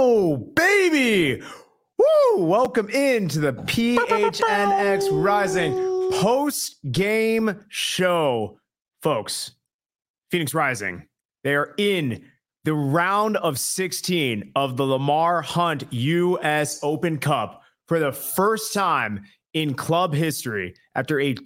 Oh, baby. Woo! Welcome into the PHNX Rising post-game show. Folks, Phoenix Rising, they are in the round of 16 of the Lamar Hunt U.S. Open Cup for the first time in club history after a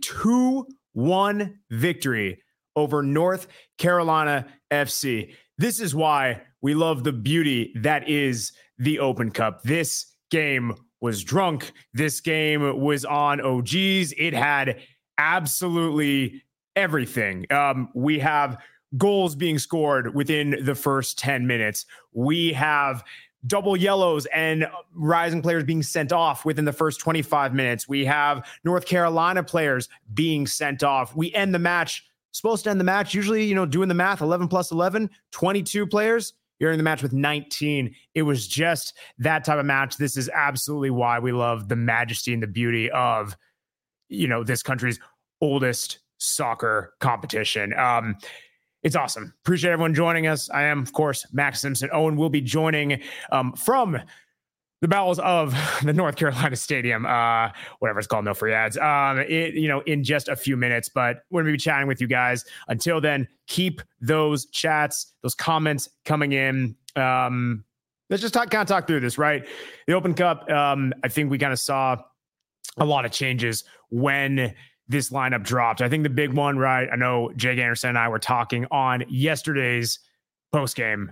2-1 victory over North Carolina FC. This is why we love the beauty that is the Open Cup. This game was drunk. This game was on OGs. It had absolutely everything. We have goals being scored within the first 10 minutes. We have double yellows and Rising players being sent off within the first 25 minutes. We have North Carolina players being sent off. We end the match, supposed to end the match, usually, doing the math, 11 plus 11, 22 players. You're in the match with 19. It was just that type of match. This is absolutely why we love the majesty and the beauty of, this country's oldest soccer competition. It's awesome. Appreciate everyone joining us. I am, of course, Max Simpson. Owen will be joining from the bowels of the North Carolina Stadium, whatever it's called, no free ads, in just a few minutes. But we're going to be chatting with you guys. Until then, keep those chats, those comments coming in. Let's just talk through this, right? The Open Cup, I think we kind of saw a lot of changes when this lineup dropped. I think the big one, right? I know Jake Anderson and I were talking on yesterday's podcast,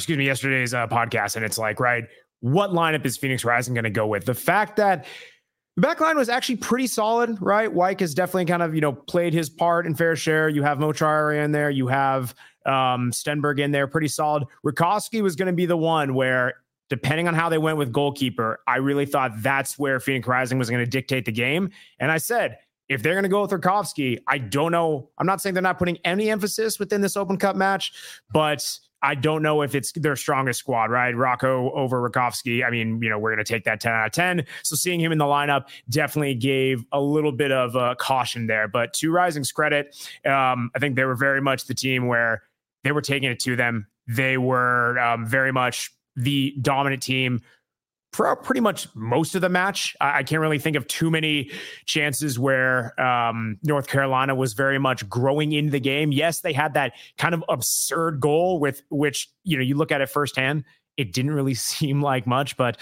and it's like, right, what lineup is Phoenix Rising going to go with? The fact that the back line was actually pretty solid, right? Wyke has definitely kind of, played his part in fair share. You have Mo Traore in there. You have Stenberg in there, pretty solid. Rakowski was going to be the one where, depending on how they went with goalkeeper, I really thought that's where Phoenix Rising was going to dictate the game. And I said, if they're going to go with Rakowski, I don't know. I'm not saying they're not putting any emphasis within this Open Cup match, but I don't know if it's their strongest squad, right? Rocco over Rakowski. I mean, we're going to take that 10 out of 10. So seeing him in the lineup definitely gave a little bit of caution there. But to Rising's credit, I think they were very much the team where they were taking it to them. They were very much the dominant team for pretty much most of the match. I can't really think of too many chances where North Carolina was very much growing into the game. Yes, they had that kind of absurd goal with which, you look at it firsthand, it didn't really seem like much, but,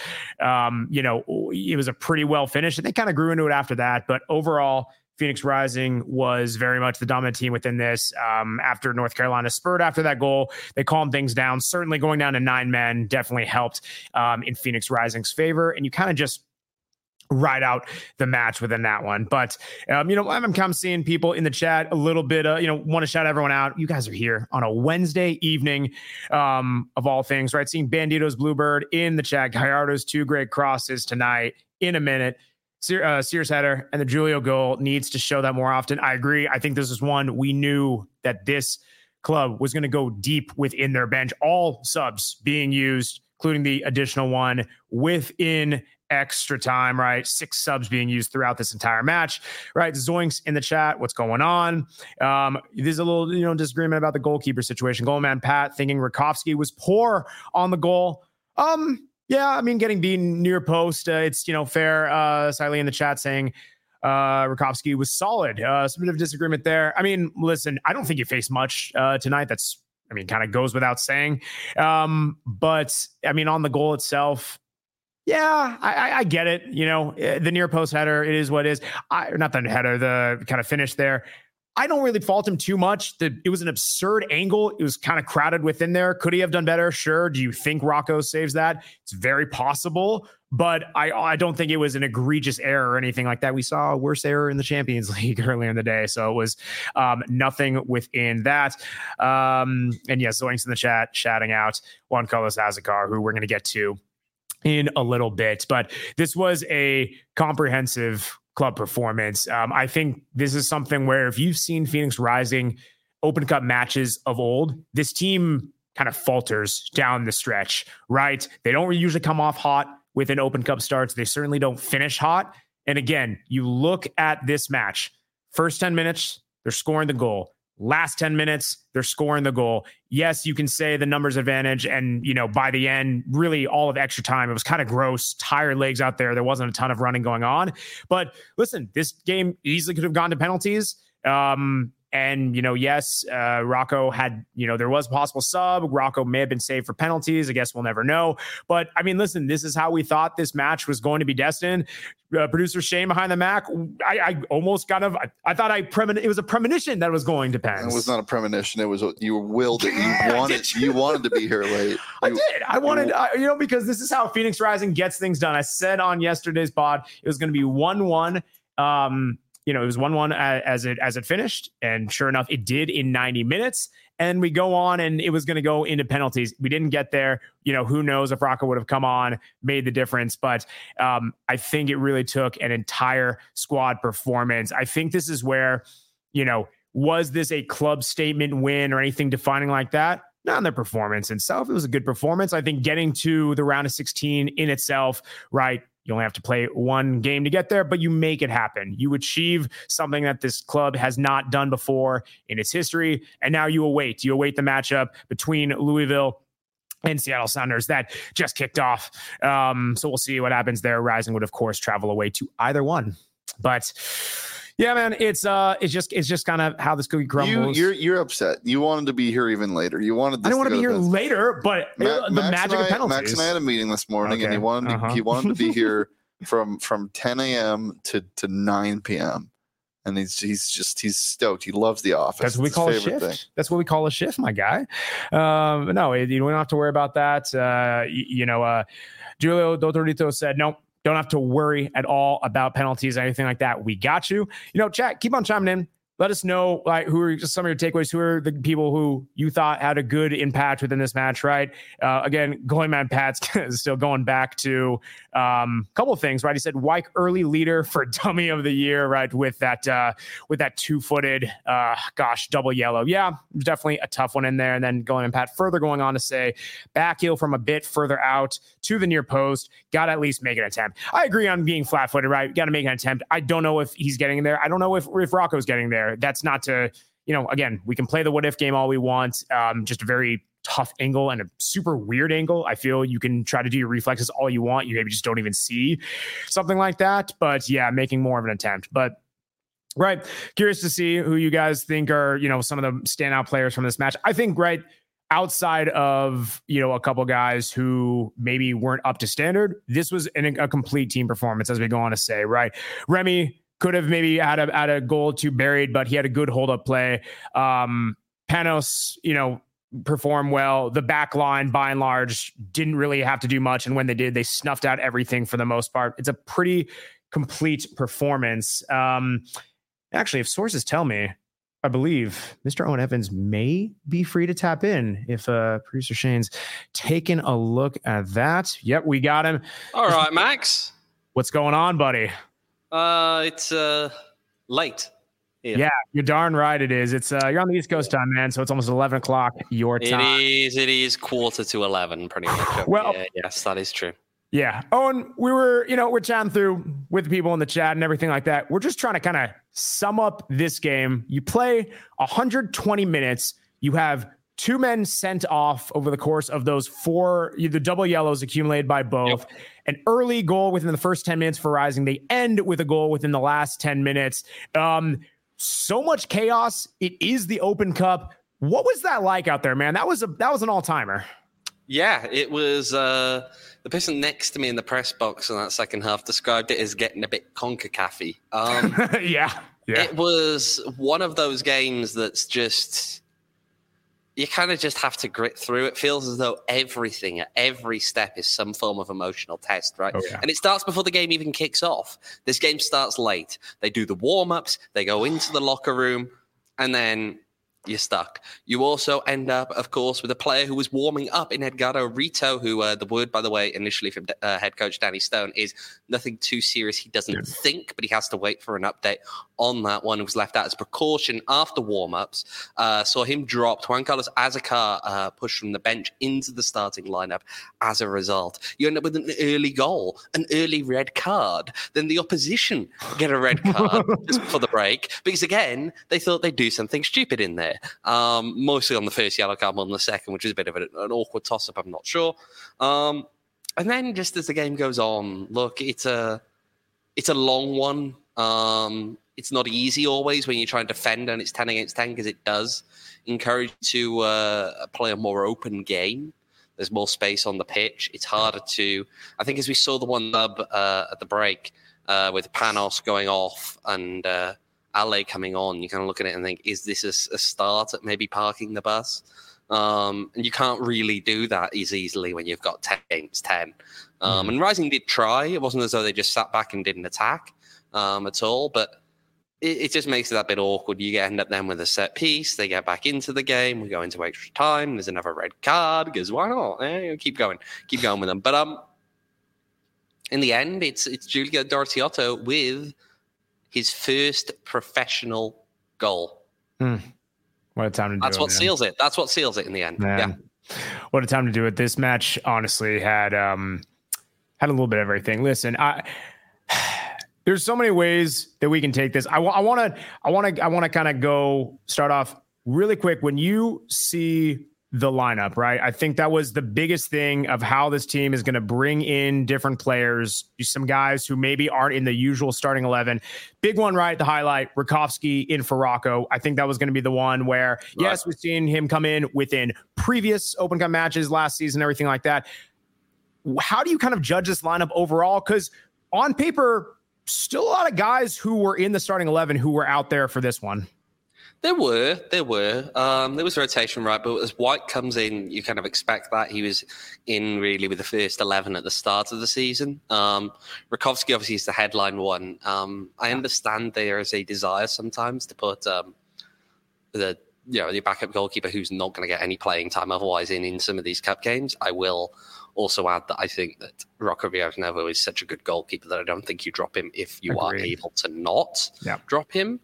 it was a pretty well finished, and they kind of grew into it after that. But overall, Phoenix Rising was very much the dominant team within this. After North Carolina spurred after that goal, they calmed things down. Certainly going down to 9 men definitely helped in Phoenix Rising's favor. And you kind of just ride out the match within that one. But, I'm kind of seeing people in the chat a little bit, want to shout everyone out. You guys are here on a Wednesday evening of all things, right? Seeing Bandito's Bluebird in the chat. Gallardo's 2 great crosses tonight in a minute. Sears header and the Julio goal needs to show that more often. I agree. I think this is one we knew that this club was going to go deep within their bench. All subs being used, including the additional one within extra time, right? 6 subs being used throughout this entire match, right? Zoinks in the chat. What's going on? There's a little, disagreement about the goalkeeper situation. Goalman Pat thinking Rakowski was poor on the goal. Yeah, I mean, getting beaten near post, it's, fair. Siley in the chat saying Rakowski was solid. Some bit of disagreement there. I mean, listen, I don't think you faced much tonight. That's, kind of goes without saying. But, on the goal itself, yeah, I get it. The near post header, it is what it is. Not the header, the kind of finish there. I don't really fault him too much. It was an absurd angle. It was kind of crowded within there. Could he have done better? Sure. Do you think Rocco saves that? It's very possible, but I don't think it was an egregious error or anything like that. We saw a worse error in the Champions League earlier in the day, so it was nothing within that. And yes, Zoinks in the chat, shouting out Juan Carlos Azakar, who we're going to get to in a little bit. But this was a comprehensive club performance. I think this is something where if you've seen Phoenix Rising Open Cup matches of old, this team kind of falters down the stretch, right? They don't usually come off hot within Open Cup starts. They certainly don't finish hot. And again, you look at this match, first 10 minutes, they're scoring the goal. Last 10 minutes, they're scoring the goal. Yes, you can say the numbers advantage. And, by the end, really all of extra time, it was kind of gross, tired legs out there. There wasn't a ton of running going on. But listen, this game easily could have gone to penalties. And, yes, Rocco had, there was a possible sub. Rocco may have been saved for penalties. I guess we'll never know. But, I mean, listen, this is how we thought this match was going to be destined. Producer Shane behind the Mac, I almost I thought it was a premonition that it was going to Pens. It was not a premonition. It was you willed it. You wanted to be here late. I did. I wanted, because this is how Phoenix Rising gets things done. I said on yesterday's pod, it was going to be 1-1. It was 1-1 as it finished. And sure enough, it did in 90 minutes. And we go on and it was going to go into penalties. We didn't get there. Who knows if Rocco would have come on, made the difference. But I think it really took an entire squad performance. I think this is where, was this a club statement win or anything defining like that? Not in their performance itself. It was a good performance. I think getting to the round of 16 in itself, right? You only have to play one game to get there, but you make it happen. You achieve something that this club has not done before in its history. And now you await the matchup between Louisville and Seattle Sounders that just kicked off. So we'll see what happens there. Rising would, of course, travel away to either one. But yeah, man, it's just kind of how this cookie crumbles. You're upset. You wanted to be here even later. You wanted. I didn't want to be here later, but the magic of penalties. Max and I had a meeting this morning, and he wanted to be here from 10 a.m. to 9 p.m. And he's stoked. He loves The Office. That's what we call a shift. Thing. That's what we call a shift, my guy. No, you don't have to worry about that. Julio Dotorito said, nope. Don't have to worry at all about penalties or anything like that. We got you. Chat, keep on chiming in. Let us know who are just some of your takeaways. Who are the people who you thought had a good impact within this match, right? Again, Going Mad Pat's still going back to a couple of things, right? He said Wyke early leader for dummy of the year, right? With that 2-footed, double yellow. Yeah, definitely a tough one in there. And then Going Mad Pat further going on to say back heel from a bit further out to the near post. Got to at least make an attempt. I agree on being flat-footed, right? Got to make an attempt. I don't know if he's getting there. I don't know if Rocco's getting there. That's not to, again, we can play the what if game all we want. Just a very tough angle and a super weird angle. I feel you can try to do your reflexes all you want. You maybe just don't even see something like that. But yeah, making more of an attempt. But right, curious to see who you guys think are, some of the standout players from this match. I think, right, outside of, a couple guys who maybe weren't up to standard, this was a complete team performance, as we go on to say, right? Remy could have maybe had a goal too buried, but he had a good hold-up play. Panos, performed well. The back line, by and large, didn't really have to do much. And when they did, they snuffed out everything for the most part. It's a pretty complete performance. Actually, if sources tell me, I believe Mr. Owen Evans may be free to tap in if producer Shane's taking a look at that. Yep, we got him. All right, Max. What's going on, buddy? It's late. Yeah, you're darn right it is. It's you're on the East Coast time, man, so it's almost 11 o'clock your time. It is 10:45, pretty much. Well, yes, that is true. Yeah. Owen, we're chatting through with the people in the chat and everything like that. We're just trying to kind of sum up this game. You play 120 minutes. You have 2 men sent off over the course of those 4, the double yellows accumulated by both. Yep. An early goal within the first 10 minutes for Rising. They end with a goal within the last 10 minutes. So much chaos. It is the Open Cup. What was that like out there, man? That was an all-timer. Yeah, it was. The person next to me in the press box in that second half described it as getting a bit CONCACAF-y. Yeah. It was one of those games that's just... You kind of just have to grit through. It feels as though everything at every step is some form of emotional test, right? Oh, yeah. And it starts before the game even kicks off. This game starts late. They do the warm-ups. They go into the locker room. And then you're stuck. You also end up, of course, with a player who was warming up in Edgardo Rito, who the word, by the way, initially from head coach Danny Stone is nothing too serious. He doesn't think, but he has to wait for an update on that one. Who was left out as precaution after warm-ups. Saw him dropped. Juan Carlos Azacar pushed from the bench into the starting lineup as a result. You end up with an early goal, an early red card. Then the opposition get a red card just before the break because, again, they thought they'd do something stupid in there. Mostly on the first yellow card more than the second, which is a bit of an awkward toss-up, I'm not sure. And then just as the game goes on, look, it's a long one. It's not easy always when you try and defend and it's 10 against 10 because it does encourage you to play a more open game. There's more space on the pitch. It's harder to, I think as we saw the one dub at the break with Panos going off and Ale coming on, you kind of look at it and think, is this a start at maybe parking the bus? And you can't really do that as easily when you've got 10 against 10. And Rising did try. It wasn't as though they just sat back and didn't attack at all, but it just makes it that bit awkward. You end up then with a set piece. They get back into the game. We go into extra time. There's another red card because why not? Keep going with them. But in the end, it's Giulio Dortiotto with his first professional goal. What a time to do it. That's what seals it. That's what seals it in the end. Man. Yeah. What a time to do it. This match honestly had a little bit of everything. Listen, there's so many ways that we can take this. I want to kind of go start off really quick. When you see the lineup, right? I think that was the biggest thing of how this team is going to bring in different players, some guys who maybe aren't in the usual starting 11. Big one, right? The highlight, Rakowski in Farako. I think that was going to be the one where, yes, we've seen him come in within previous Open Cup matches last season, everything like that. How do you kind of judge this lineup overall? Because on paper, still a lot of guys who were in the starting 11 who were out there for this one. There were. There was rotation, right? But as White comes in, you kind of expect that. He was in really with the first 11 at the start of the season. Rakowski obviously is the headline one. I understand there is a desire sometimes to put the backup goalkeeper who's not going to get any playing time otherwise in some of these cup games. I will also add that I think that Rocco Villas-Novo is such a good goalkeeper that I don't think you drop him if you are able to not drop him.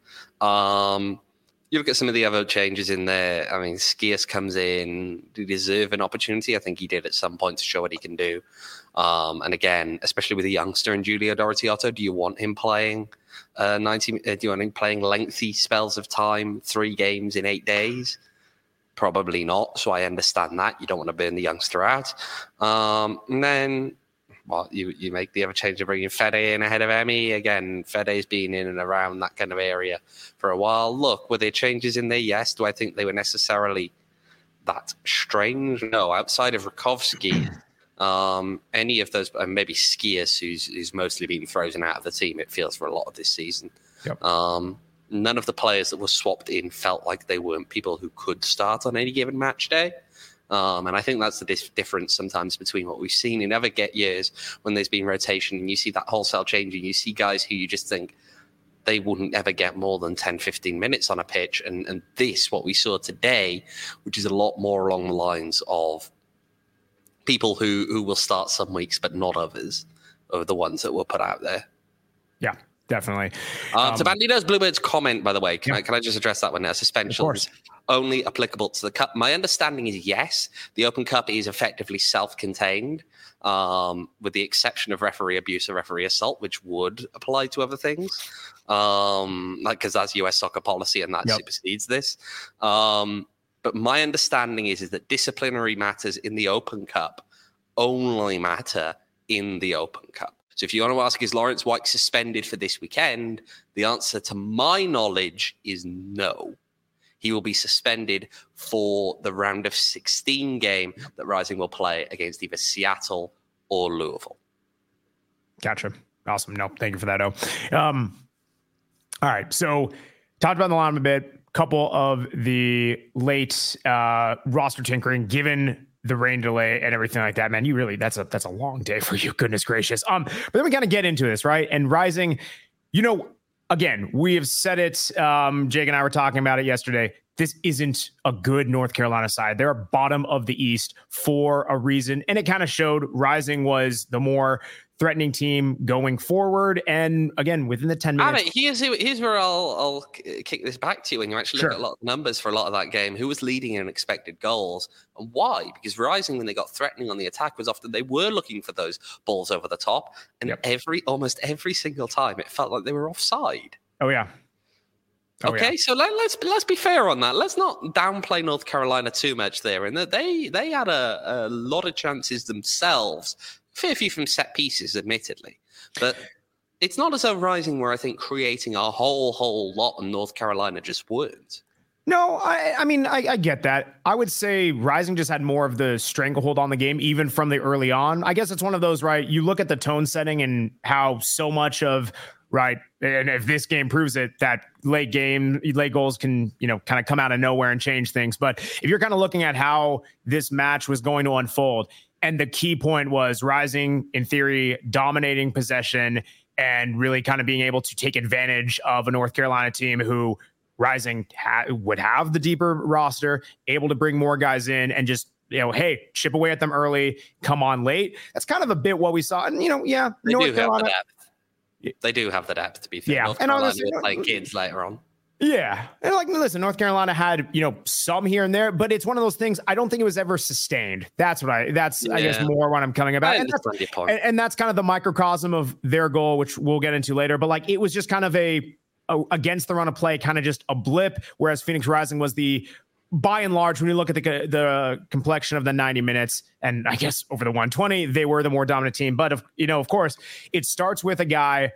You look at some of the other changes in there. I mean, Skias comes in to deserve an opportunity. I think he did at some point to show what he can do. And again, especially with a youngster in Giulio Dortiotto, do you want him playing 90? Do you want him playing lengthy spells of time, 3 games in 8 days? Probably not. So I understand that. You don't want to burn the youngster out. And then, well, you make the other change of bringing Fede in ahead of Emi. Again, Fede's been in and around that kind of area for a while. Look, were there changes in there? Yes. Do I think they were necessarily that strange? No. Outside of Rakowski, any of those, maybe Skias, who's mostly been frozen out of the team, it feels, for a lot of this season. Yep. None of the players that were swapped in felt like they weren't people who could start on any given match day. And I think that's the difference sometimes between what we've seen in other years when there's been rotation and you see that wholesale changing. You see guys who you just think they wouldn't ever get more than 10, 15 minutes on a pitch. And this, what we saw today, which is a lot more along the lines of people who will start some weeks but not others, are the ones that were put out there. Yeah. Definitely. To Bandito's Bluebirds comment, by the way, can I just address that one now? Suspensions only applicable to the Cup. My understanding is yes, the Open Cup is effectively self-contained, with the exception of referee abuse or referee assault, which would apply to other things, because that's US soccer policy and that supersedes this. But my understanding is that disciplinary matters in the Open Cup only matter in the Open Cup. So if you want to ask, is Lawrence White suspended for this weekend? The answer to my knowledge is no. He will be suspended for the round of 16 game that Rising will play against either Seattle or Louisville. Gotcha. Awesome. No, thank you for that, all right. So talked about the line a bit. Couple of the late roster tinkering given the rain delay and everything like that, man, you really, that's a long day for you. Goodness gracious. But then we kind of get into this, right? And Rising, again, we have said it. Jake and I were talking about it yesterday. This isn't a good North Carolina side. They're bottom of the East for a reason. And it kind of showed Rising was the more threatening team going forward. And again, within the 10 minutes. Here's where I'll kick this back to you. When you actually look at a lot of numbers for a lot of that game, who was leading in expected goals and why? Because Rising, when they got threatening on the attack, was often they were looking for those balls over the top. And almost every single time, it felt like they were offside. Oh, yeah. So let's be fair on that. Let's not downplay North Carolina too much there. And that they had a lot of chances themselves, fair few from set pieces, admittedly. But it's not as though Rising were, I think, creating a whole lot, and North Carolina just weren't. No, I mean, I get that. I would say Rising just had more of the stranglehold on the game, even from the early on. I guess it's one of those, right? You look at the tone setting and how so much of, right, and if this game proves it, that late goals can, kind of come out of nowhere and change things. But if you're kind of looking at how this match was going to unfold, and the key point was Rising, in theory, dominating possession and really kind of being able to take advantage of a North Carolina team who Rising would have the deeper roster, able to bring more guys in and just, hey, chip away at them early, come on late. That's kind of a bit what we saw. And, they North do Carolina, have the depth. They do have the depth, to be fair. North Carolina will play kids later on. Yeah. And listen, North Carolina had, some here and there, but it's one of those things. I don't think it was ever sustained. That's I guess more what I'm coming about. And that's kind of the microcosm of their goal, which we'll get into later. But it was just kind of a against the run of play, kind of just a blip. Whereas Phoenix Rising was by and large, when you look at the complexion of the 90 minutes, and I guess over the 120, they were the more dominant team. But of course, it starts with a guy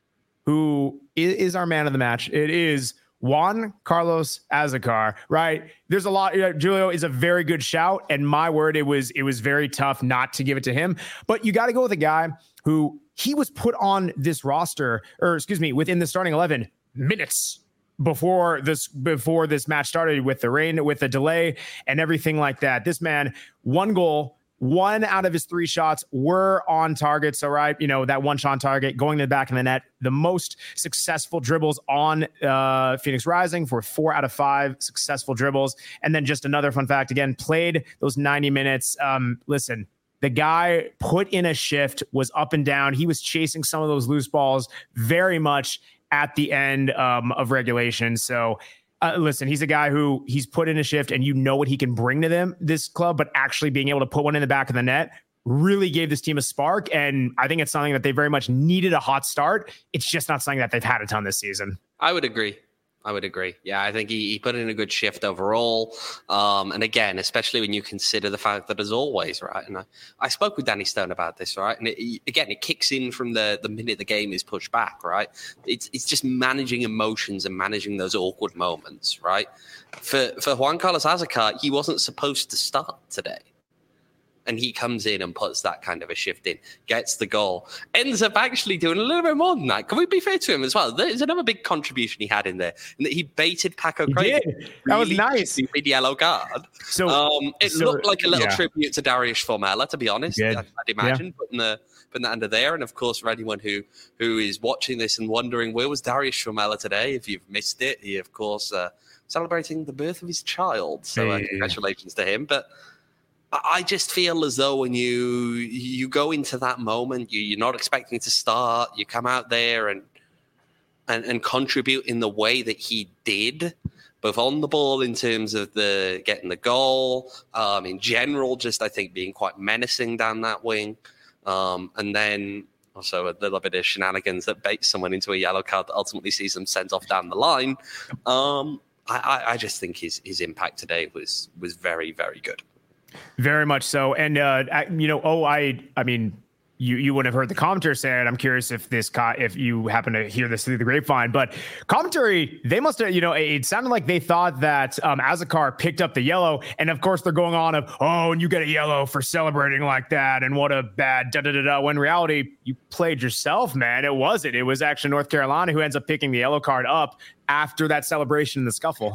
who is our man of the match. It is Juan Carlos Azócar, right? There's a lot. Julio is a very good shout, and my word, it was very tough not to give it to him. But you got to go with a guy who he was put on this roster, within the starting 11 minutes before this match started, with the rain, with the delay, and everything like that. This man, 1 goal. 1 out of his 3 shots were on target. So, right, that 1 shot on target going to the back of the net, the most successful dribbles on Phoenix Rising for 4 out of 5 successful dribbles. And then just another fun fact, again, played those 90 minutes. Listen, the guy put in a shift, was up and down. He was chasing some of those loose balls very much at the end of regulation. So, listen, he's a guy who he's put in a shift, and what he can bring to this club, but actually being able to put one in the back of the net really gave this team a spark. And I think it's something that they very much needed a hot start. It's just not something that they've had a ton this season. I would agree. Yeah, I think he put in a good shift overall. And again, especially when you consider the fact that, as always, right, and I spoke with Danny Stone about this, right, and it kicks in from the minute the game is pushed back, right? It's just managing emotions and managing those awkward moments, right? For Juan Carlos Azócar, he wasn't supposed to start today. And he comes in and puts that kind of a shift in, gets the goal, ends up actually doing a little bit more than that. Can we be fair to him as well? There's another big contribution he had in there, in that he baited Paco Craig. That was nice. With yellow card. So it looked like a little tribute to Darius Formella, to be honest. I'd imagine putting that under there. And of course, for anyone who is watching this and wondering where was Darius Formella today, if you've missed it, he of course celebrating the birth of his child. So congratulations to him. But I just feel as though when you go into that moment, you're not expecting to start. You come out there and contribute in the way that he did, both on the ball in terms of getting the goal, in general, just I think being quite menacing down that wing, and then also a little bit of shenanigans that baits someone into a yellow card that ultimately sees them sent off down the line. I just think his impact today was very, very good. Very much so. And, I mean, you wouldn't have heard the commentary say it. I'm curious if you happen to hear this through the grapevine, but commentary, they must have, it sounded like they thought that Azócar picked up the yellow. And of course they're going on and you get a yellow for celebrating like that. And what a bad da-da-da-da. When in reality, you played yourself, man. It wasn't. It was actually North Carolina who ends up picking the yellow card up after that celebration in the scuffle.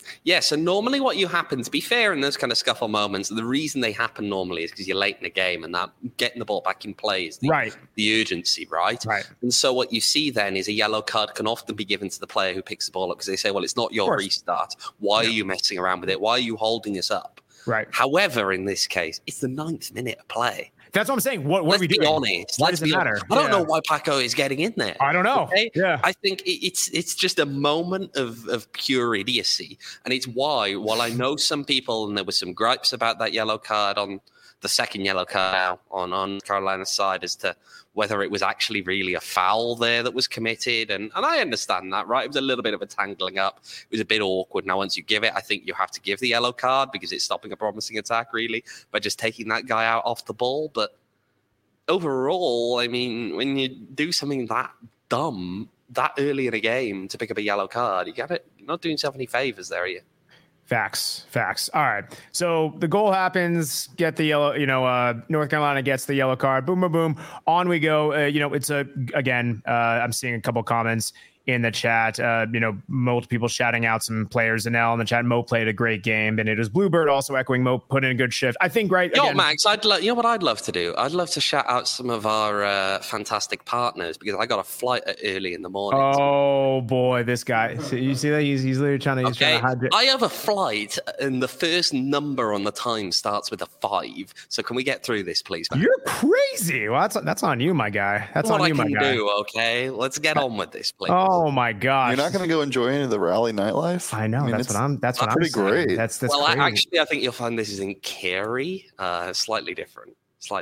Yeah, so normally what you happen, to be fair, in those kind of scuffle moments, the reason they happen normally is because you're late in the game, and that getting the ball back in play is the urgency, right? And so what you see then is a yellow card can often be given to the player who picks the ball up because they say, well, it's not your restart. Why are you messing around with it? Why are you holding us up? However, in this case, it's the 9th minute of play. That's what I'm saying. What are we doing? Honest. Why does it matter? I don't know why Paco is getting in there. I don't know. Okay? I think it's just a moment of pure idiocy. And it's why, while I know some people, and there were some gripes about that yellow card on the second yellow card now on Carolina's side as to whether it was actually really a foul there that was committed. And I understand that, right? It was a little bit of a tangling up. It was a bit awkward. Now, once you give it, I think you have to give the yellow card because it's stopping a promising attack, really, by just taking that guy out off the ball. But overall, I mean, when you do something that dumb that early in a game to pick up a yellow card, you're not doing yourself any favors there, are you? Facts. All right. So the goal happens, get the yellow, North Carolina gets the yellow card. Boom, boom, boom. On we go. It's I'm seeing a couple comments in the chat, multiple people shouting out some players. Anel in the chat. Mo played a great game, and it was Bluebird also echoing Mo put in a good shift. I think, right? Max, you know what I'd love to do? I'd love to shout out some of our fantastic partners because I got a flight early in the morning. Oh boy, this guy! So you see that he's literally trying to. I have a flight, and the first number on the time starts with a 5. So can we get through this, please, man? You're crazy. Well, that's on you, my guy. That's on you, my guy. Okay, let's get on with this, please. Oh my gosh! You're not going to go enjoy any of the rally nightlife? I know. That's what I'm pretty saying. Great. That's well, crazy. Actually, I think you'll find this is in Cary. Slightly different.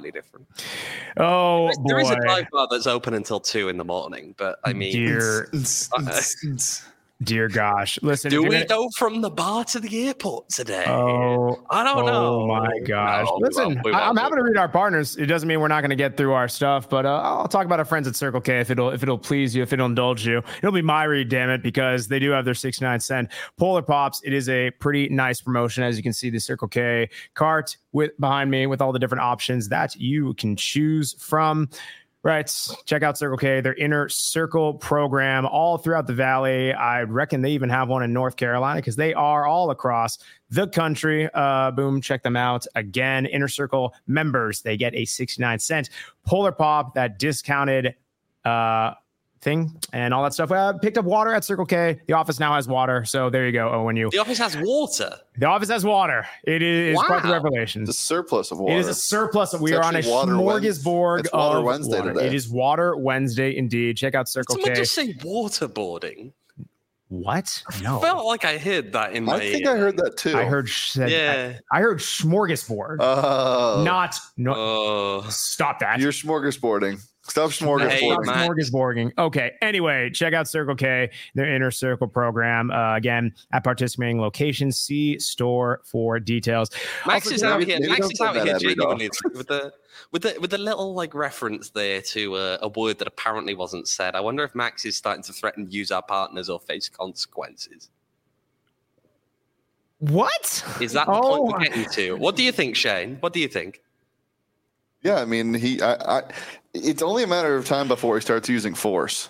Oh, there is a dive bar that's open until 2 in the morning, but I mean, dear gosh, listen. Do we go from the bar to the airport today? Oh, I don't know. Oh my gosh! No, listen, I'm happy to read our partners. It doesn't mean we're not going to get through our stuff, but I'll talk about our friends at Circle K if it'll please you, if it'll indulge you. It'll be my read, damn it, because they do have their 69-cent Polar Pops. It is a pretty nice promotion, as you can see the Circle K cart behind me with all the different options that you can choose from. Right. Check out Circle K, their Inner Circle program all throughout the Valley. I reckon they even have one in North Carolina because they are all across the country. Boom. Check them out. Again, Inner Circle members, they get a 69-cent Polar Pop, that discounted thing and all that stuff. Picked up water at Circle K. The office now has water. So there you go. The office has water. The office has water. It is quite the revelation. It's a surplus of water. It is a surplus. We are on a smorgasbord. It's Water Wednesday today. It is Water Wednesday indeed. Check out Circle K. Did just say waterboarding? What? No. I felt like I heard that in my ear. I think I heard that too. I heard smorgasbord. Stop that. You're smorgasbording. Stop smorgasbording. Okay. Anyway, check out Circle K, their Inner Circle program. Again, at participating locations, see store for details. Max is out here genuinely with the little like reference there to a word that apparently wasn't said. I wonder if Max is starting to threaten to use our partners or face consequences. What? Is that the point we're getting to? What do you think, Shane? What do you think? Yeah, I mean, it's only a matter of time before he starts using force.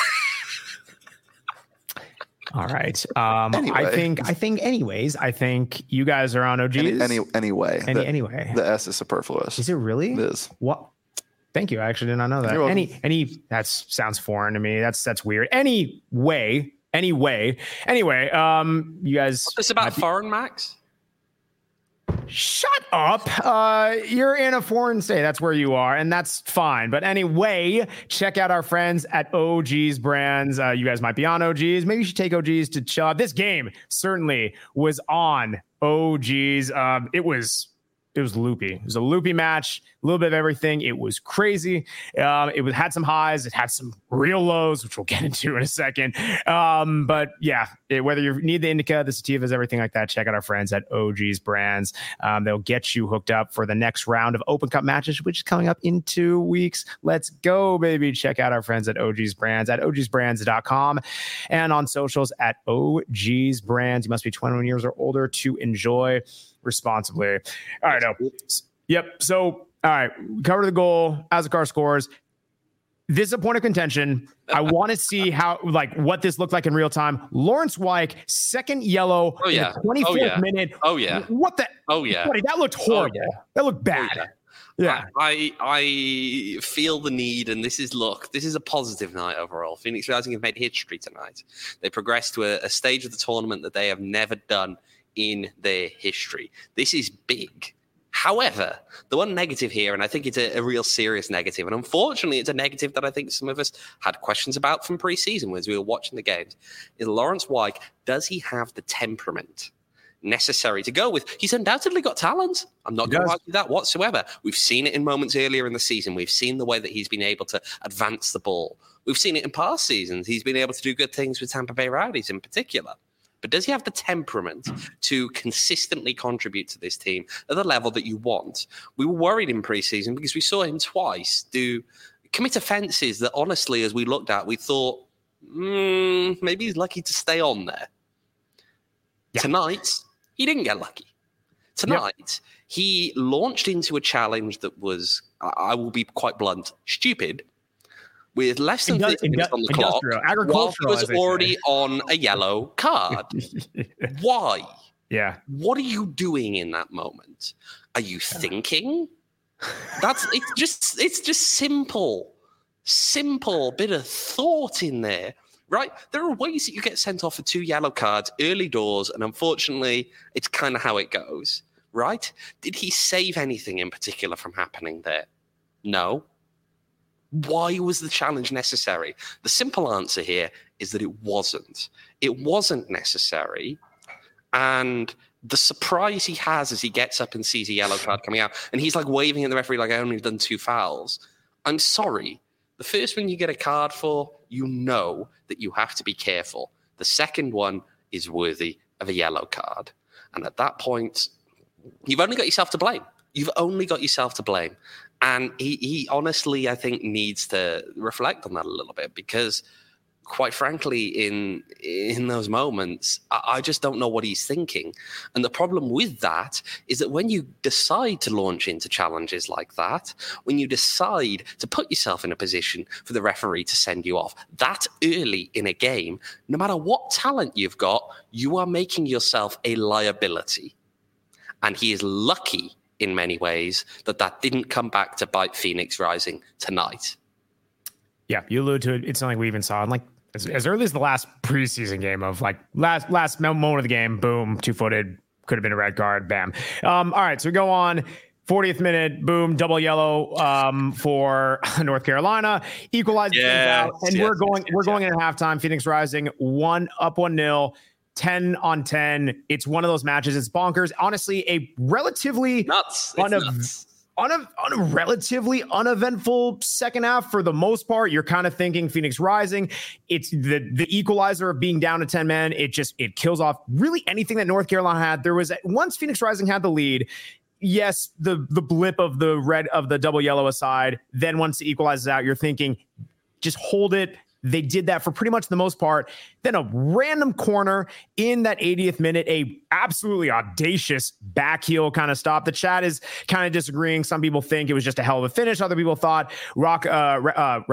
All right. Anyway. I think you guys are on OGs. Anyway. The S is superfluous. Is it really? It is. What? Thank you. I actually did not know that. That sounds foreign to me. That's weird. Anyway, you guys. What's this about foreign, Max? Shut up. You're in a foreign state. That's where you are, and that's fine. But anyway, check out our friends at OG's Brands. You guys might be on OG's. Maybe you should take OG's to chill out. This game certainly was on OG's. It was loopy. It was a loopy match, a little bit of everything. It was crazy. It had some highs. It had some real lows, which we'll get into in a second. But yeah, whether you need the indica, the sativas, everything like that, check out our friends at OG's Brands. They'll get you hooked up for the next round of Open Cup matches, which is coming up in 2 weeks. Let's go, baby. Check out our friends at OG's Brands at ogsbrands.com and on socials at OG's Brands. You must be 21 years or older to enjoy responsibly. All right. Yep. So, all right. Cover the goal as the car scores. this is a point of contention. I want to see what this looked like in real time. Lawrence Weick, second yellow in the 24th minute. Oh, yeah. What the? Oh, yeah. Buddy, that looked horrible. Oh, yeah. That looked bad. Yeah. I feel the need, and this is a positive night overall. Phoenix Rising have made history tonight. They progressed to a stage of the tournament that they have never done in their history. This is big. However, the one negative here, and I think it's a real serious negative, and unfortunately it's a negative that I think some of us had questions about from preseason as we were watching the games, is Lawrence Weick, does he have the temperament necessary to go with? He's undoubtedly got talent. I'm not going to argue that whatsoever. We've seen it in moments earlier in the season. We've seen the way that he's been able to advance the ball. We've seen it in past seasons. He's been able to do good things with Tampa Bay Rowdies in particular. But does he have the temperament to consistently contribute to this team at the level that you want? We were worried in preseason because we saw him twice commit offenses that honestly, as we looked at, we thought, maybe he's lucky to stay on there. Yeah. Tonight, he didn't get lucky. Tonight, he launched into a challenge that was, I will be quite blunt, stupid, with less than 30 minutes on the clock, while he was already on a yellow card. Why? Yeah. What are you doing in that moment? Are you thinking? It's just simple bit of thought in there, right? There are ways that you get sent off for 2 yellow cards early doors, and unfortunately, it's kind of how it goes, right? Did he save anything in particular from happening there? No. Why was the challenge necessary? The simple answer here is that it wasn't. It wasn't necessary. And the surprise he has as he gets up and sees a yellow card coming out, and he's like waving at the referee like, I only done 2 fouls. I'm sorry. The first one you get a card for, you know that you have to be careful. The second one is worthy of a yellow card. And at that point, you've only got yourself to blame. And he honestly, I think, needs to reflect on that a little bit because, quite frankly, in those moments, I just don't know what he's thinking. And the problem with that is that when you decide to launch into challenges like that, when you decide to put yourself in a position for the referee to send you off that early in a game, no matter what talent you've got, you are making yourself a liability. And he is lucky in many ways that didn't come back to bite Phoenix Rising tonight. Yeah, you allude to it. It's something we even saw in as early as the last preseason game of last moment of the game, boom, 2-footed, could have been a red card, bam. All right, so we go on. 40th minute, boom, double yellow for North Carolina, equalized out, and we're going into halftime. Phoenix Rising 1-0. 10 on 10. It's one of those matches. It's bonkers. Honestly, a relatively on a relatively uneventful second half for the most part. You're kind of thinking Phoenix Rising. It's the equalizer of being down to 10 men. It kills off really anything that North Carolina had. There was once Phoenix Rising had the lead. Yes, the blip of the red of the double yellow aside. Then once it equalizes out, you're thinking just hold it. They did that for pretty much the most part. Then a random corner in that 80th minute, a absolutely audacious back heel kind of stop. The chat is kind of disagreeing. Some people think it was just a hell of a finish. Other people thought Rako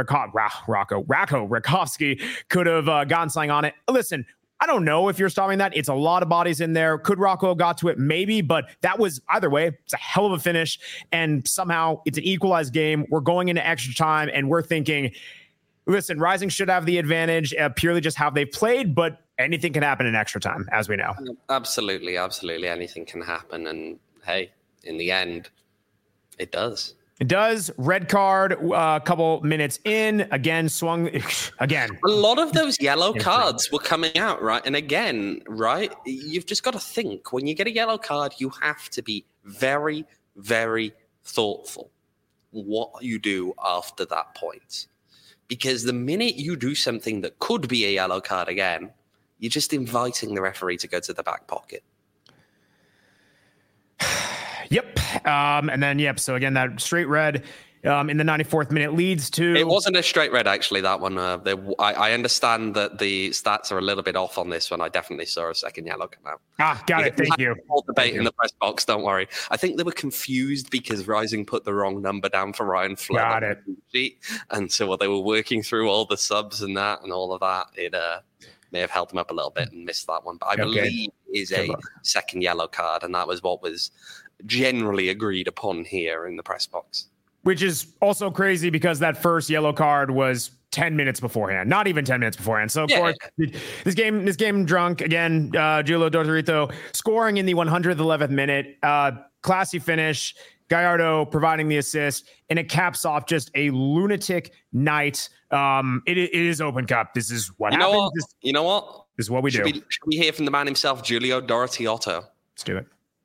Rakowski could have gotten something on it. Listen, I don't know if you're stopping that. It's a lot of bodies in there. Could Rocco have got to it? Maybe, but that was either way. It's a hell of a finish. And somehow it's an equalized game. We're going into extra time and we're thinking, listen, Rising should have the advantage purely just how they've played, but anything can happen in extra time, as we know. Absolutely. Anything can happen. And hey, in the end, it does. It does. Red card, a couple minutes in. Again, swung. Again. A lot of those yellow cards were coming out, right? And again, right, you've just got to think. When you get a yellow card, you have to be very, very thoughtful what you do after that point. Because the minute you do something that could be a yellow card again, you're just inviting the referee to go to the back pocket. Yep. And then, so again, that straight red, in the 94th minute leads to... It wasn't a straight red, actually, that one. I understand that the stats are a little bit off on this one. I definitely saw a second yellow come out. Got it. Thank you. Whole debate in the press box, don't worry. I think they were confused because Rising put the wrong number down for Ryan Flood. Got it. And so while they were working through all the subs and that and all of that, it may have held them up a little bit and missed that one. But I believe it is a second yellow card, and that was what was generally agreed upon here in the press box. Which is also crazy because that first yellow card was 10 minutes beforehand, not even 10 minutes beforehand. So, of course, this game drunk again. Julio Dorito scoring in the 111th minute. Classy finish. Gallardo providing the assist, and it caps off just a lunatic night. It is Open Cup. This is what happens. You know what? This is what we do. Should we hear from the man himself, Julio Dorothiotto? Let's do it.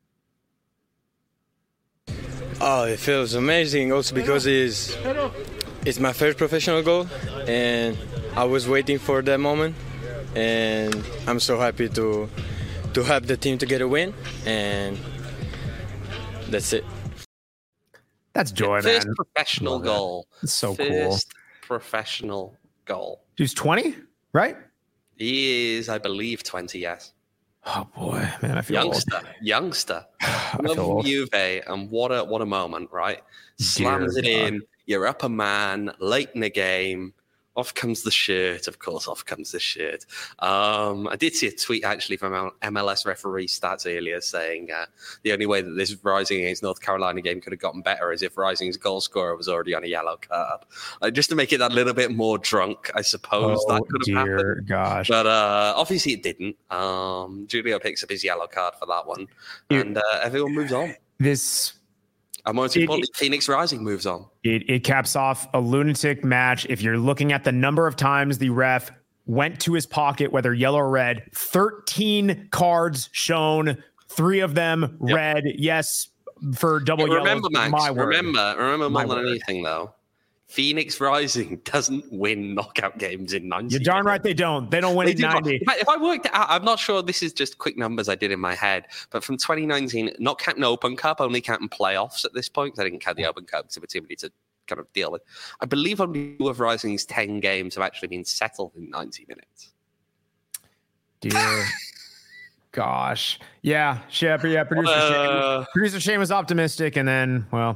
Oh, it feels amazing also because it's my first professional goal, and I was waiting for that moment, and I'm so happy to help the team to get a win, and that's it. That's joy, man. First professional goal. It's so cool. First professional goal. He's 20, right? He is, I believe, 20, yes. Oh boy, man, I feel youngster. Love Juve, and what a moment, right? Slams it in. You're up a man late in the game. Off comes the shirt. Of course, off comes the shirt. I did see a tweet actually from MLS referee stats earlier saying the only way that this Rising against North Carolina game could have gotten better is if Rising's goal scorer was already on a yellow card. Just to make it that little bit more drunk, I suppose that could have happened. Gosh. But obviously it didn't. Julio picks up his yellow card for that one, and everyone moves on. And most importantly, Phoenix Rising moves on. It caps off a lunatic match. If you're looking at the number of times the ref went to his pocket, whether yellow or red, 13 cards shown, 3 of them red. Yes, for double yellow. Remember, Max, remember more than anything, though, Phoenix Rising doesn't win knockout games in 90. You're darn right they don't. They don't win in 90. If I worked it out, I'm not sure this is just quick numbers I did in my head, but from 2019, not counting Open Cup, only counting playoffs at this point, because I didn't count the Open Cup because it was too many to kind of deal with. I believe only 2 of Rising's 10 games have actually been settled in 90 minutes. Dear gosh. Yeah. Producer Shane was optimistic, and then, well...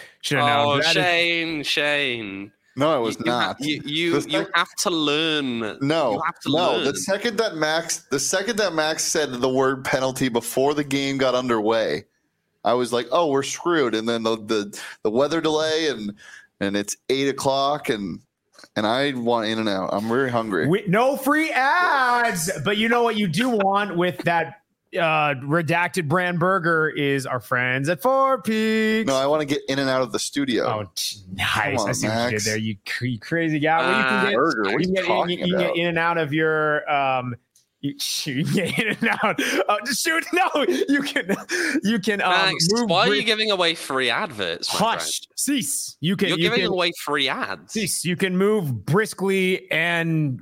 Shane. No, it was not. You have to learn. No, you have to learn. The second that Max said the word penalty before the game got underway, I was like, "Oh, we're screwed." And then the weather delay and it's 8:00 and I want In and Out. I'm very hungry. No free ads, but you know what you do want with that redacted brand burger is our friends at Four Peaks. No, I want to get in and out of the studio. Oh, nice. I see what you did there. You crazy guy. Well, you can get burger. What are you talking about? You can get in and out of your you get in and out. Shoot, no, you can Max, move. Why are you giving away free adverts? Hush, cease. You're giving away free ads. Cease. You can move briskly and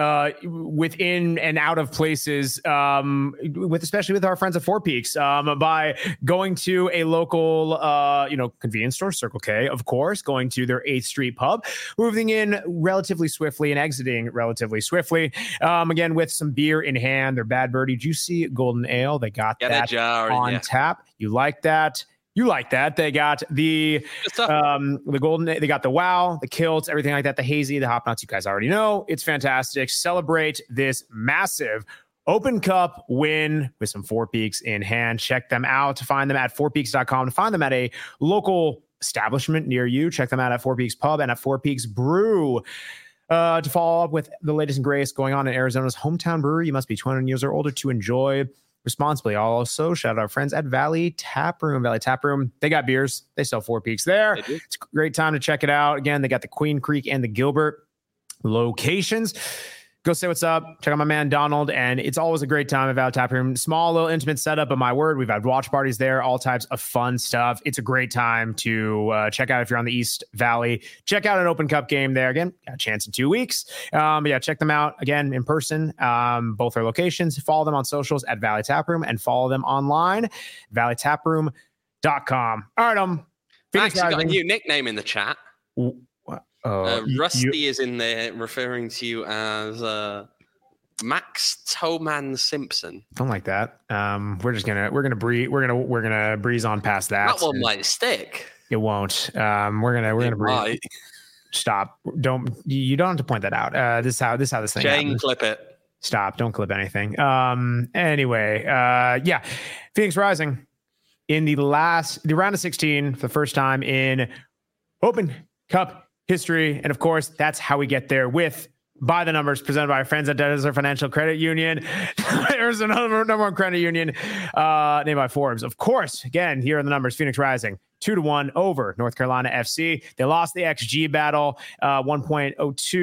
within and out of places, especially with our friends at Four Peaks, by going to a local convenience store, Circle K, of course, going to their 8th Street pub, moving in relatively swiftly and exiting relatively swiftly. Again, with some beer in hand, their Bad Birdie Juicy Golden Ale. They got that on tap. You like that? They got the golden. They got the Wow, the Kilts, everything like that. The Hazy, the Hop Nuts. You guys already know it's fantastic. Celebrate this massive Open Cup win with some Four Peaks in hand. Check them out. To find them at fourpeaks.com. To find them at a local establishment near you. Check them out at Four Peaks Pub and at Four Peaks Brew. To follow up with the latest and greatest going on in Arizona's hometown brewery, you must be 21 years or older to enjoy responsibly. Also, shout out our friends at Valley Tap Room. Valley Tap Room, they got beers. They sell Four Peaks there. It's a great time to check it out. Again, they got the Queen Creek and the Gilbert locations. Go say what's up. Check out my man Donald, and it's always a great time at Valley Tap Room. Small, little intimate setup, but my word, we've had watch parties there, all types of fun stuff. It's a great time to check out if you're on the East Valley. Check out an Open Cup game there. Again, got a chance in 2 weeks. But yeah, check them out again in person. Both their locations. Follow them on socials at Valley Tap Room and follow them online, valleytaproom.com. All right, Max, you got a new nickname in the chat. Rusty is in there referring to you as Max Toman Simpson. Something like that. We're gonna breeze on past that. That one might stick. It won't. We're gonna breeze. Stop. You don't have to point that out. This is how this thing happens. Clip it. Stop. Don't clip anything. Anyway, Phoenix Rising in the round of 16 for the first time in Open Cup history. And of course, that's how we get there with By the Numbers, presented by our friends at Desert Financial Credit Union. There's another number one credit union named by Forbes. Of course, again, here are the numbers. Phoenix Rising 2-1 over North Carolina FC. They lost the XG battle, 1.02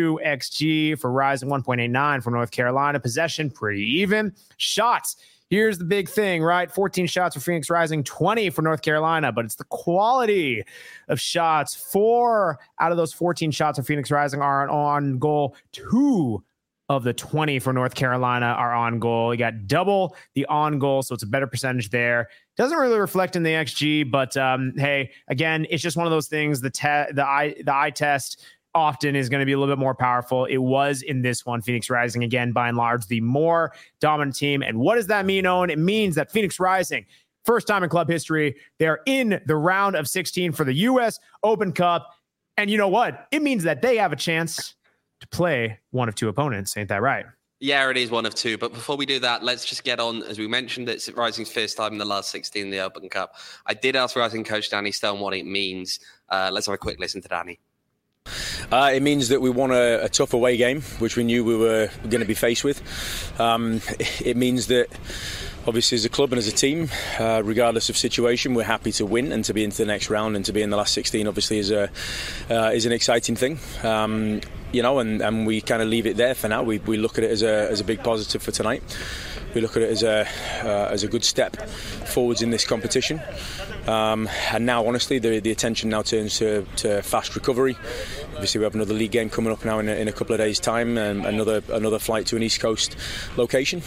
XG for Rising, 1.89 for North Carolina. Possession, pretty even. Shots. Here's the big thing, right? 14 shots for Phoenix Rising, 20 for North Carolina, but it's the quality of shots. 4 out of those 14 shots for Phoenix Rising are on goal. 2 of the 20 for North Carolina are on goal. You got double the on goal, so it's a better percentage there. Doesn't really reflect in the XG, but hey, again, it's just one of those things. The eye test often is going to be a little bit more powerful. It was in this one. Phoenix Rising, again, by and large, the more dominant team. And what does that mean, Owen? It means that Phoenix Rising, first time in club history, they're in the round of 16 for the U.S. Open Cup. And you know what? It means that they have a chance to play one of 2 opponents. Ain't that right? Yeah, it is one of 2. But before we do that, let's just get on. As we mentioned, it's Rising's first time in the last 16 in the Open Cup. I did ask Rising coach Danny Stone what it means. Let's have a quick listen to Danny. It means that we won a tough away game, which we knew we were going to be faced with. It means that, obviously, as a club and as a team, regardless of situation, we're happy to win and to be into the next round, and to be in the last 16 obviously is an exciting thing. And we kind of leave it there for now. We look at it as a big positive for tonight. We look at it as a good step forwards in this competition. And now, honestly, the attention now turns to fast recovery. Obviously, we have another league game coming up now in a couple of days' time, and another flight to an East Coast location.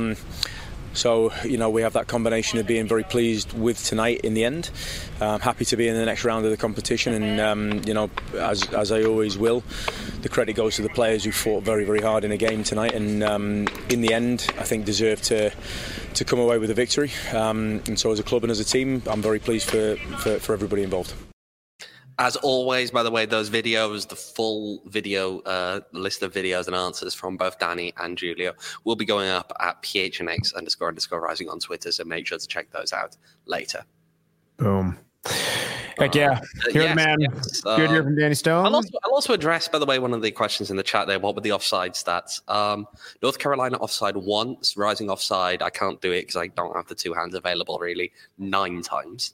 So, we have that combination of being very pleased with tonight in the end. Happy to be in the next round of the competition. And, as I always will, the credit goes to the players who fought very, very hard in a game tonight. And in the end, I think deserve to come away with a victory. And so as a club and as a team, I'm very pleased for everybody involved. As always, by the way, those videos, the full video list of videos and answers from both Danny and Julio will be going up at PHNX__rising on Twitter. So make sure to check those out later. Boom. Heck yeah. Hear the man. Yes. Good hear from Danny Stone. I'll also address, by the way, one of the questions in the chat there. What were the offside stats? North Carolina offside once, Rising offside. I can't do it because I don't have the 2 hands available, really. 9 times.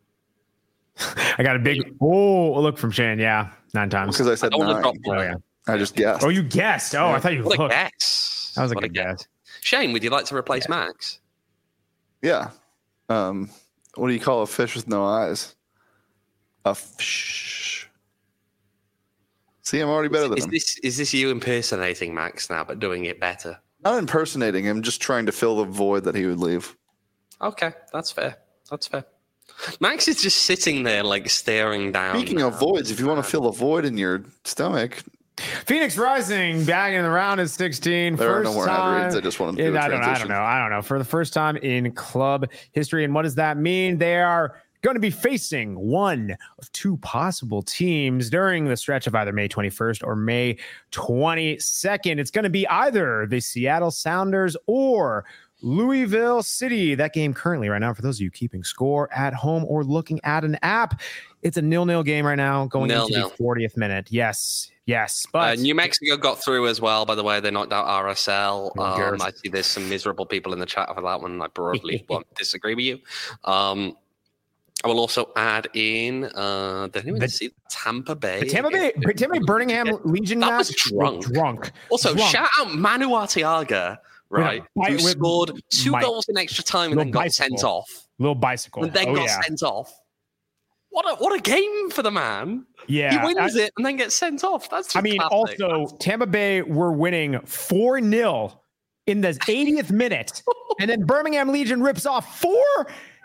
I got a big look from Shane. Yeah, 9 times. Because I said 9. I just guessed. Oh, you guessed. Oh, I thought you looked. What a guess. That was a good guess. Shane, would you like to replace Max? Yeah. What do you call a fish with no eyes? A fish. See, I'm already better than him. Is this you impersonating Max now, but doing it better? Not impersonating him, just trying to fill the void that he would leave. Okay, that's fair. Max is just sitting there, staring down. Speaking of voids, if you want to fill a void in your stomach. Phoenix Rising back in the round of 16. There are no more ad reads. I just wanted to do a transition. I don't know. For the first time in club history. And what does that mean? They are going to be facing one of 2 possible teams during the stretch of either May 21st or May 22nd. It's going to be either the Seattle Sounders or Louisville City. That game currently right now, for those of you keeping score at home or looking at an app, it's a 0-0 game right now going into the 40th minute. Yes. But New Mexico got through as well, by the way. They knocked out RSL. I see there's some miserable people in the chat for that one. I probably won't disagree with you. I will also add in see Tampa Bay. Tampa Bay Birmingham Legion that was drunk. Also, shout out Manu Arteaga, right? Who scored 2 goals in extra time and then got sent off. Little bicycle. And then got sent off. What a game for the man. Yeah. He wins it and then gets sent off. That's classic. Also, Tampa Bay were winning 4-0 in the 80th minute. And then Birmingham Legion rips off 4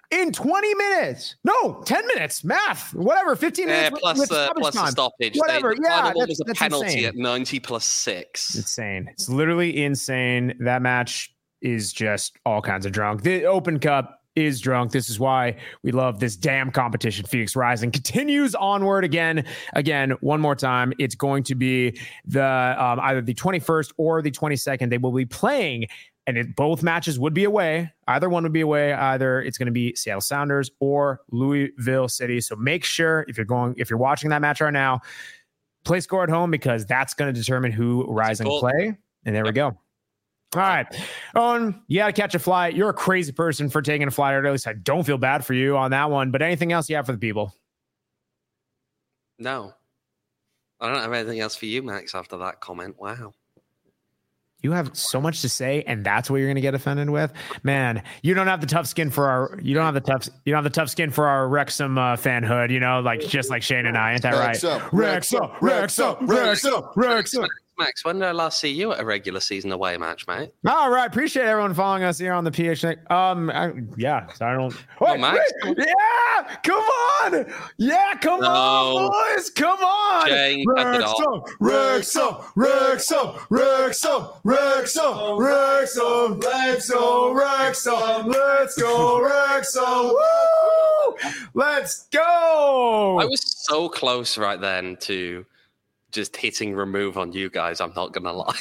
in 20 minutes. No, 10 minutes. Math, whatever. 15 minutes plus the stoppage. Whatever. The final one was a penalty insane. At 90 plus 6. Insane. It's literally insane. That match is just all kinds of drunk. The Open Cup is drunk. This is why we love this damn competition. Phoenix Rising continues onward again, one more time. It's going to be the either the 21st or the 22nd. They will be playing, and both matches would be away. Either one would be away. Either it's going to be Seattle Sounders or Louisville City. So make sure if you're watching that match right now, play score at home, because that's going to determine who Rising play. And there we go. All right. Owen, you got to catch a flight. You're a crazy person for taking a flight, or at least I don't feel bad for you on that one. But anything else you have for the people? No. I don't have anything else for you, Max, after that comment. Wow. You have so much to say, and that's what you're going to get offended with, man. You don't have the tough skin for our. You don't have the tough skin for our Wrexham fanhood. You know, like just like Shane and I. Ain't that right? Wrexham. Max, when did I last see you at a regular season away match, mate? All right, appreciate everyone following us here on the PHNX. Yeah, so I don't. Oh, Max? Yeah, come on. Yeah, come on, boys, come on. Jane, Wrexham. Let's go, Wrexham. Woo! Let's go. I was so close right then to just hitting remove on you guys. I'm not gonna lie.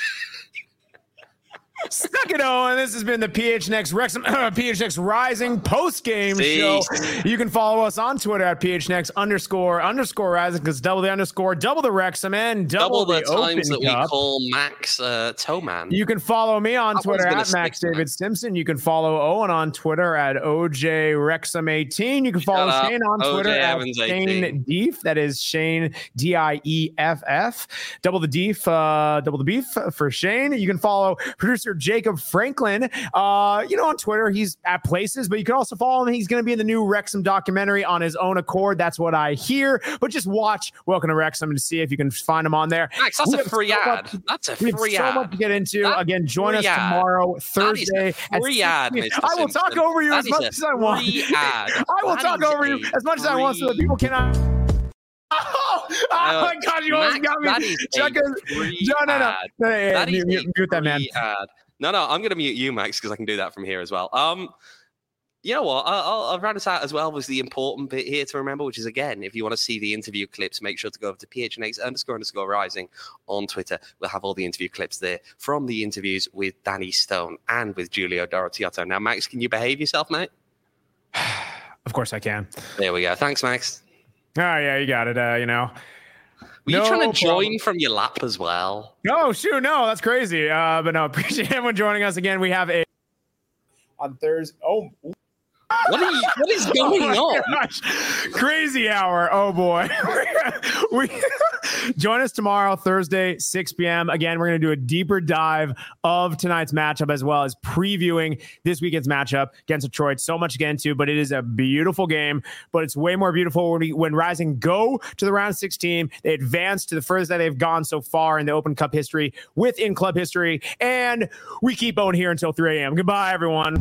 Stuck it, Owen. This has been the PHNX Wrexham, PHNX Rising post-game show. You can follow us on Twitter at PHNX__Rising, because double the underscore, double the Wrexham, and double the times that Cup. We call Max Towman. You can follow me on Twitter at Max David Simpson. You can follow Owen on Twitter at OJWrexham18. You can follow Shane on Twitter at Shane Deef. That is Shane DIEFF. Double the beef for Shane. You can follow producer Jacob Franklin, on Twitter. He's at places, but you can also follow him. He's going to be in the new Wrexham documentary on his own accord. That's what I hear. But just watch Welcome to Wrexham and see if you can find him on there. Max, that's a free ad. That's a free ad. So much to get into. Again, join us tomorrow, Thursday. Free ad. I will talk over you as much as I want. I will talk over you as much as I want so that people cannot. Oh my God! You almost got me. Mute that, man. No, I'm going to mute you, Max, because I can do that from here as well. You know what? I'll round us out as well with the important bit here to remember, which is, again, if you want to see the interview clips, make sure to go over to PHNX__Rising on Twitter. We'll have all the interview clips there from the interviews with Danny Stone and with Giulio Dorottiotto. Now, Max, can you behave yourself, mate? Of course I can. There we go. Thanks, Max. Oh, yeah, you got it. Were you trying to join from your lap as well? No, shoot, no, that's crazy. But no, appreciate everyone joining us again. We have on Thursday. What is going on? Gosh. Crazy hour. Oh boy. we join us tomorrow, Thursday, 6 p.m. Again, we're going to do a deeper dive of tonight's matchup, as well as previewing this weekend's matchup against Detroit. So much to get into, but it is a beautiful game. But it's way more beautiful when Rising go to the round 16. They advance to the furthest that they've gone so far in the Open Cup history, within club history. And we keep on here until 3 a.m. Goodbye, everyone.